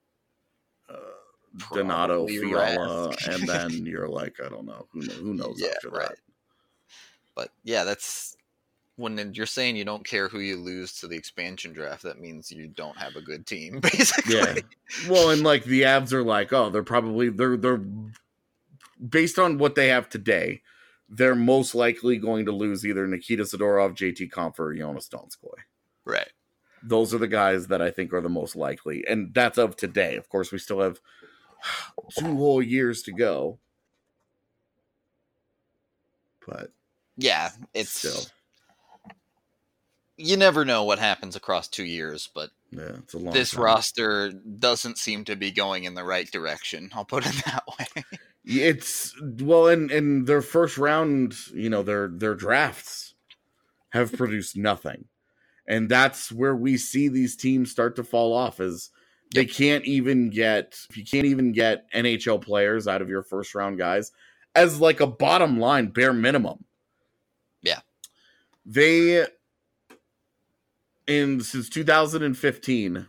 Donato, Fiala, and then you're like, I don't know. Who knows after that? But yeah, that's when you're saying you don't care who you lose to the expansion draft, that means you don't have a good team, basically. Yeah. Well, and like the Avs are like, oh, they're based on what they have today, they're most likely going to lose either Nikita Zadorov, JT Compher, or Jonas Donskoy. Right. Those are the guys that I think are the most likely. And that's of today. Of course, we still have 2 whole years to go. But yeah, it's still, you never know what happens across 2 years, but yeah, it's a long this time. roster doesn't seem to be going in the right direction. I'll put it that way. It's well, and their first round, their drafts have produced nothing, and that's where we see these teams start to fall off. Is they you can't even get NHL players out of your first round guys as like a bottom line bare minimum. Yeah, since 2015.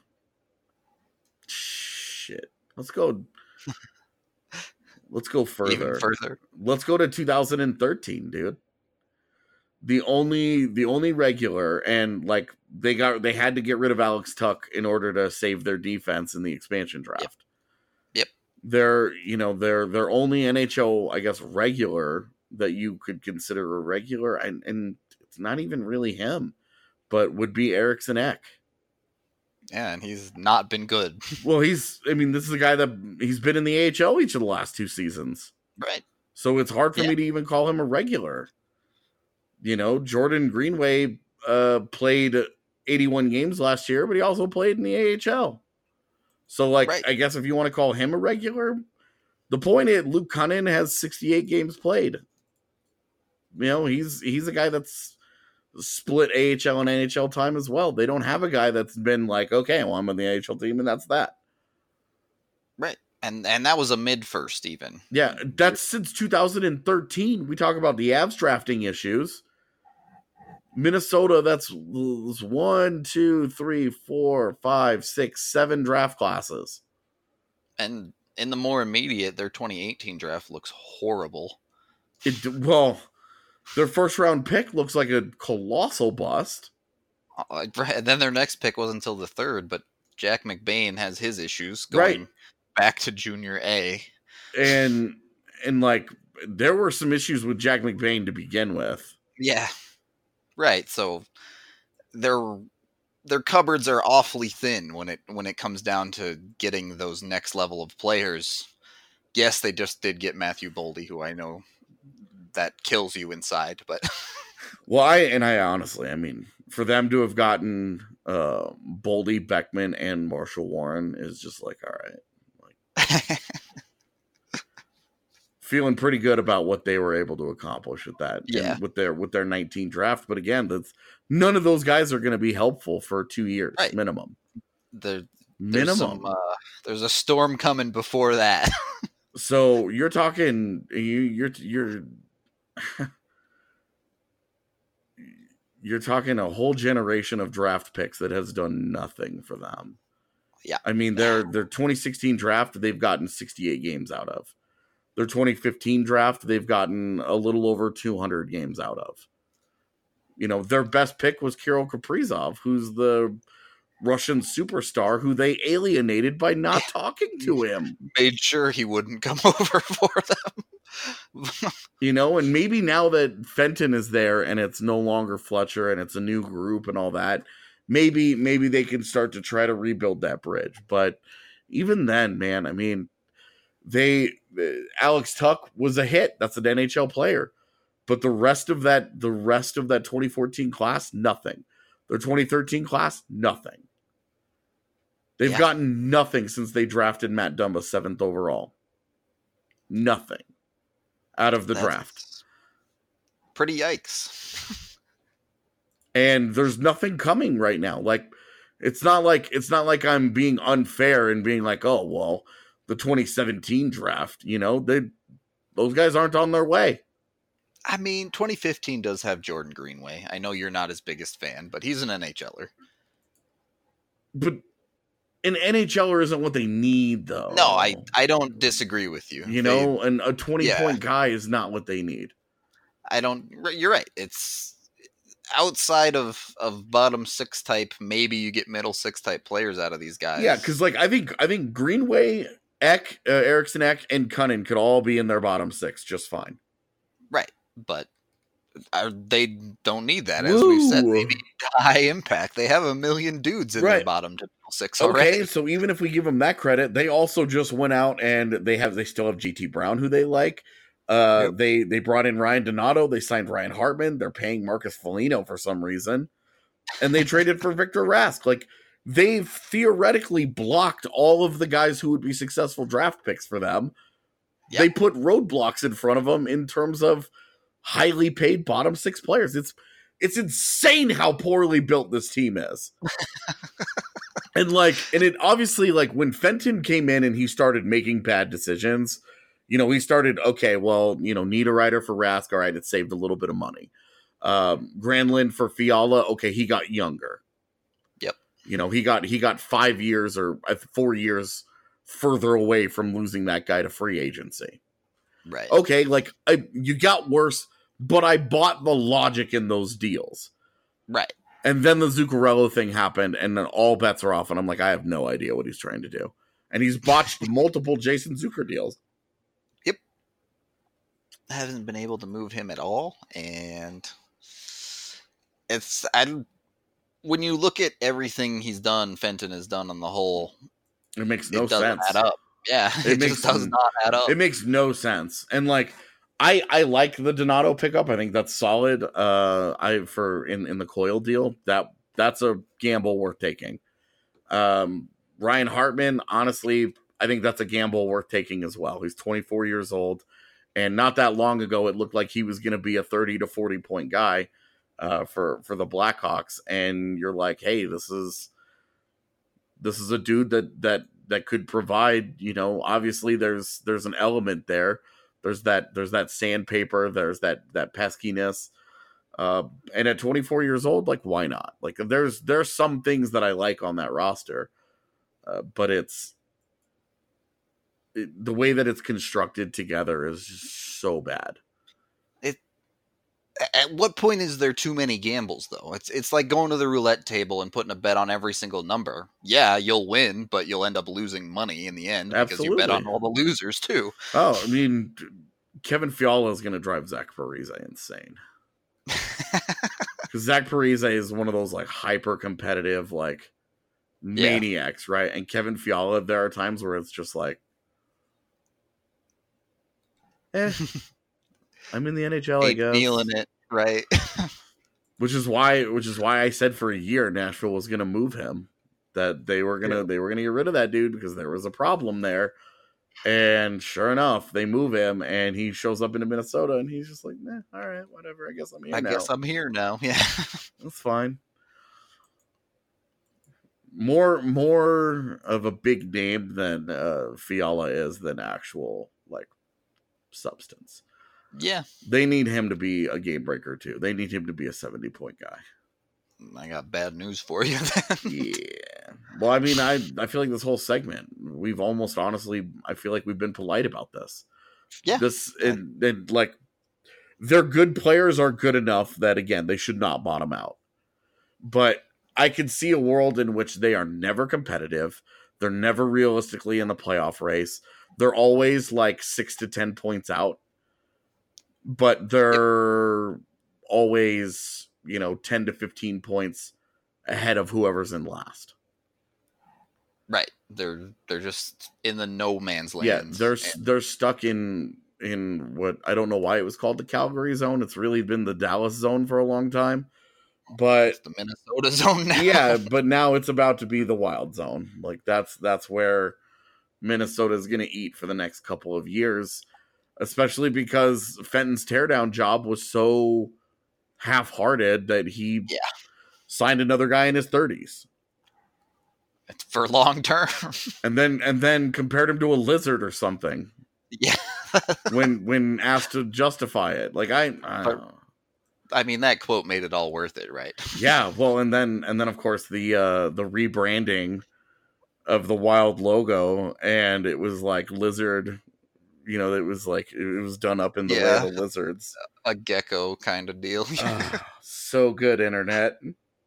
Shit, let's go further. Even further. Let's go to 2013, dude. The only regular, and like they had to get rid of Alex Tuch in order to save their defense in the expansion draft. Yep. They're only NHL, I guess, regular that you could consider a regular, and it's not even really him, but would be Eriksson Ek. Yeah, and he's not been good. Well, this is a guy that he's been in the AHL each of the last 2 seasons. Right. So it's hard for me to even call him a regular. Jordan Greenway played 81 games last year, but he also played in the AHL. So, right. I guess if you want to call him a regular, the point is Luke Kunin has 68 games played. He's a guy that's split AHL and NHL time as well. They don't have a guy that's been like, okay, well, I'm on the AHL team, and that's that. Right. And that was a mid-first even. Yeah, that's since 2013. We talk about the Avs drafting issues. Minnesota, that's 1, 2, 3, 4, 5, 6, 7 draft classes. And in the more immediate, their 2018 draft looks horrible. Their first round pick looks like a colossal bust. And then their next pick wasn't until the 3rd, but Jack McBain has his issues going back to Junior A. And like there were some issues with Jack McBain to begin with. Yeah. Right. So their cupboards are awfully thin when it comes down to getting those next level of players. Yes, they just did get Matthew Boldy, who I know that kills you inside, but well, I honestly, for them to have gotten Boldy, Beckman, and Marshall Warren is just like, all right, feeling pretty good about what they were able to accomplish with that, with their 19 draft. But again, none of those guys are going to be helpful for 2 years minimum. There's a storm coming before that. So you're talking you're talking a whole generation of draft picks that has done nothing for them. Yeah. Their 2016 draft, they've gotten 68 games out of. Their 2015 draft, they've gotten a little over 200 games out of. Their best pick was Kirill Kaprizov, who's the Russian superstar who they alienated by not talking to him. Made sure he wouldn't come over for them. And maybe now that Fenton is there and it's no longer Fletcher and it's a new group and all that, maybe they can start to try to rebuild that bridge. But even then, man, Alex Tuch was a hit. That's an NHL player. But the rest of that 2014 class, nothing. Their 2013 class, nothing. They've gotten nothing since they drafted Matt Dumba 7th overall. Nothing out of the draft. Pretty yikes. And there's nothing coming right now. Like it's not like I'm being unfair and being like, oh well, the 2017 draft, those guys aren't on their way. I mean, 2015 does have Jordan Greenway. I know you're not his biggest fan, but he's an NHLer. But an NHLer isn't what they need, though. No, I don't disagree with you. You know, and a 20-point guy is not what they need. You're right. It's outside of bottom six type. Maybe you get middle six type players out of these guys. Yeah, because like I think Greenway, Eriksson, and Cunnin could all be in their bottom six just fine. Right, but they don't need that. As we've said, they need high impact. They have a million dudes in their bottom six already. Okay, so even if we give them that credit, they also just went out and they still have GT Brown, who they like. They brought in Ryan Donato. They signed Ryan Hartman. They're paying Marcus Foligno for some reason, and they traded for Victor Rask. Like they've theoretically blocked all of the guys who would be successful draft picks for them. Yep. They put roadblocks in front of them in terms of highly paid bottom six players. It's insane how poorly built this team is. and it obviously, like, when Fenton came in and he started making bad decisions, you know, he started, okay, well, you know, need a rider for Rask. All right, it saved a little bit of money. Granlund for Fiala, okay, he got younger. Yep. You know, he got 5 years or 4 years further away from losing that guy to free agency. Right. Okay, like, you got worse, but I bought the logic in those deals. Right. And then the Zuccarello thing happened, and then all bets are off, and I'm like, I have no idea what he's trying to do. And he's botched multiple Jason Zucker deals. Yep. I haven't been able to move him at all, and when you look at everything he's done, Fenton has done on the whole, it makes no sense. Add up. Yeah, it just does not add up. It makes no sense. And like, I like the Donato pickup. I think that's solid. In the Coyle deal, that's a gamble worth taking. Ryan Hartman, honestly, I think that's a gamble worth taking as well. He's 24 years old, and not that long ago, it looked like he was going to be a 30 to 40 point guy for the Blackhawks. And you're like, hey, this is a dude that could provide. You know, obviously there's an element there. There's that sandpaper. There's that peskiness. And at 24 years old, like, why not? Like, there's some things that I like on that roster, but the way that it's constructed together is just so bad. At what point is there too many gambles, though? It's like going to the roulette table and putting a bet on every single number. Yeah, you'll win, but you'll end up losing money in the end. Absolutely. Because you bet on all the losers, too. Oh, I mean, Kevin Fiala is going to drive Zach Parise insane. Because Zach Parise is one of those, like, hyper-competitive, like, maniacs, right? And Kevin Fiala, there are times where it's just like, I'm in the NHL, I guess. Feeling it, right? which is why I said for a year Nashville was going to move him. That they were gonna get rid of that dude because there was a problem there. And sure enough, they move him, and he shows up in Minnesota, and he's just like, all right, whatever. I guess I'm here now. I guess I'm here now. Yeah, that's fine. More of a big name than Fiala is than actual, like, substance. Yeah. They need him to be a game breaker, too. They need him to be a 70-point guy. I got bad news for you then. Yeah. Well, I mean, I feel like this whole segment, we've almost honestly, I feel like we've been polite about this. Yeah. Like, their good players are good enough that, again, they should not bottom out. But I can see a world in which they are never competitive. They're never realistically in the playoff race. They're always like 6 to 10 points out. But they're always, 10 to 15 points ahead of whoever's in last. Right. They're just in the no man's land. Yeah, they're stuck in what, I don't know why it was called the Calgary zone. It's really been the Dallas zone for a long time. But it's the Minnesota zone now. Yeah, but now it's about to be the Wild zone. Like, that's where Minnesota is going to eat for the next couple of years. Especially because Fenton's teardown job was so half-hearted that he signed another guy in his 30s. It's for long term. and then compared him to a lizard or something. Yeah, when asked to justify it. Like I don't know. I mean, that quote made it all worth it, right? Yeah, well, and then of course the rebranding of the Wild logo, and it was like lizard. You know, it was like it was done up in the way of the lizards, a gecko kind of deal. So good, internet.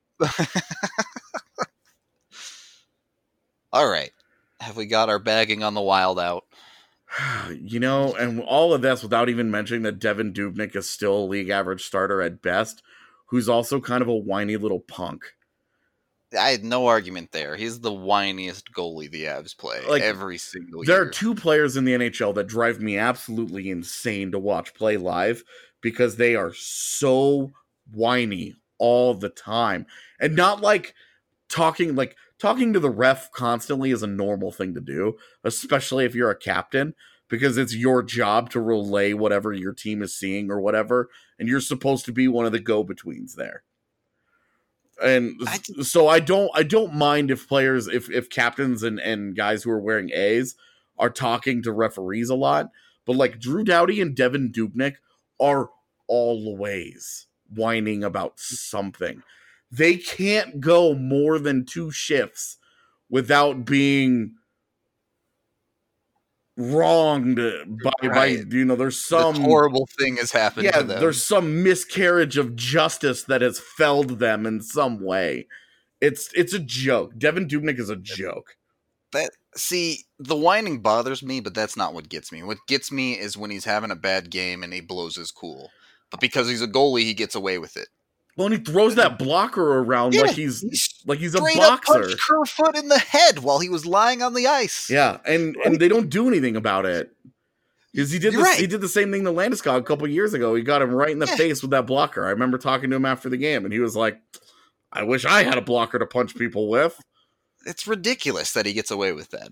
All right, have we got our bagging on the Wild out? You know, and all of this without even mentioning that Devin Dubnyk is still a league average starter at best, who's also kind of a whiny little punk. I had no argument there. He's the whiniest goalie the Avs play every single year. There are two players in the NHL that drive me absolutely insane to watch play live because they are so whiny all the time. And not like talking to the ref constantly is a normal thing to do, especially if you're a captain, because it's your job to relay whatever your team is seeing or whatever, and you're supposed to be one of the go-betweens there. And so I don't mind if players, if captains and guys who are wearing A's are talking to referees a lot, but like Drew Doughty and Devin Dubnyk are always whining about something. They can't go more than 2 shifts without being wronged by you know, there's some horrible thing has happened to them. There's some miscarriage of justice that has felled them in some way. It's a joke. Devin Dubnyk is a joke. The whining bothers me, but that's not what gets me. What gets me is when he's having a bad game and he blows his cool. But because he's a goalie, he gets away with it. Well, and he throws that blocker around like he's a boxer. Up punched Kerfoot in the head while he was lying on the ice. Yeah, and they don't do anything about it. Because he did the same thing to Landeskog a couple years ago. He got him right in the face with that blocker. I remember talking to him after the game, and he was like, I wish I had a blocker to punch people with. It's ridiculous that he gets away with that.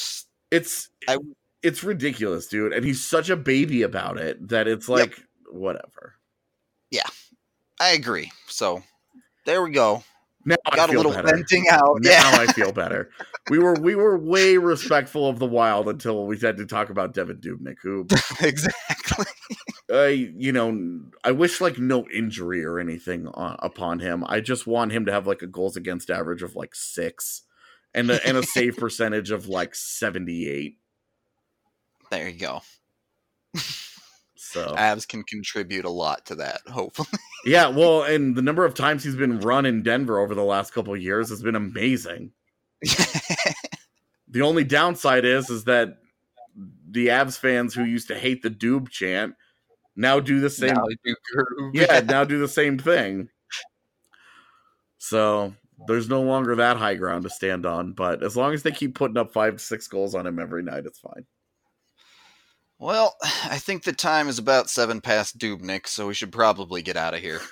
It's ridiculous, dude. And he's such a baby about it that it's like, whatever. Yeah. I agree. So there we go. Now got a little venting out. Now I feel better. We were way respectful of the Wild until we had to talk about Devin Dubnyk, who exactly. I wish like no injury or anything upon him. I just want him to have like a goals against average of like 6 and a save percentage of like 78. There you go. So Avs can contribute a lot to that, hopefully. Yeah, well, and the number of times he's been run in Denver over the last couple of years has been amazing. The only downside is that the Avs fans who used to hate the Doob chant now do the same. Now do the same thing. So there's no longer that high ground to stand on. But as long as they keep putting up 5-6 goals on him every night, it's fine. Well, I think the time is about 7 past Dubnyk, so we should probably get out of here.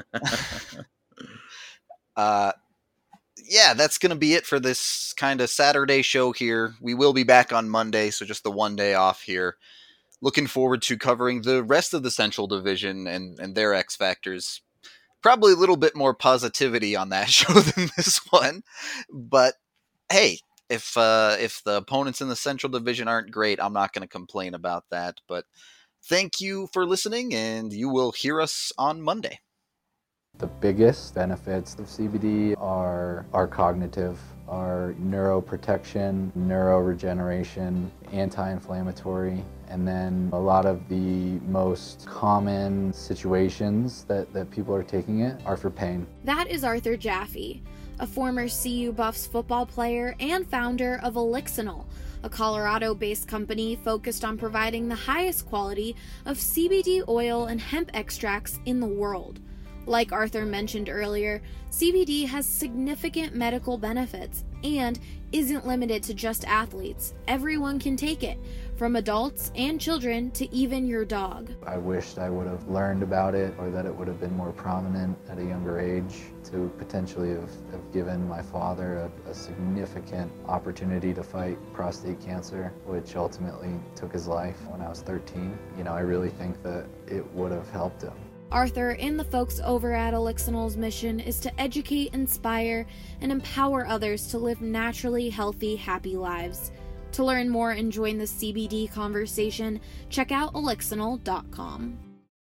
Yeah, that's going to be it for this kind of Saturday show here. We will be back on Monday, so just the one day off here. Looking forward to covering the rest of the Central Division and their X Factors. Probably a little bit more positivity on that show than this one. But, hey, if the opponents in the Central Division aren't great, I'm not going to complain about that. But thank you for listening, and you will hear us on Monday. The biggest benefits of CBD are cognitive, are neuroprotection, neuroregeneration, anti-inflammatory, and then a lot of the most common situations that people are taking it are for pain. That is Arthur Jaffe, a former CU Buffs football player and founder of Elixinol, a Colorado-based company focused on providing the highest quality of CBD oil and hemp extracts in the world. Like Arthur mentioned earlier, CBD has significant medical benefits and isn't limited to just athletes. Everyone can take it, from adults and children to even your dog. I wished I would have learned about it, or that it would have been more prominent at a younger age to potentially have given my father a significant opportunity to fight prostate cancer, which ultimately took his life when I was 13. I really think that it would have helped him. Arthur and the folks over at Elixinol's mission is to educate, inspire, and empower others to live naturally healthy, happy lives. To learn more and join the CBD conversation, check out elixinol.com.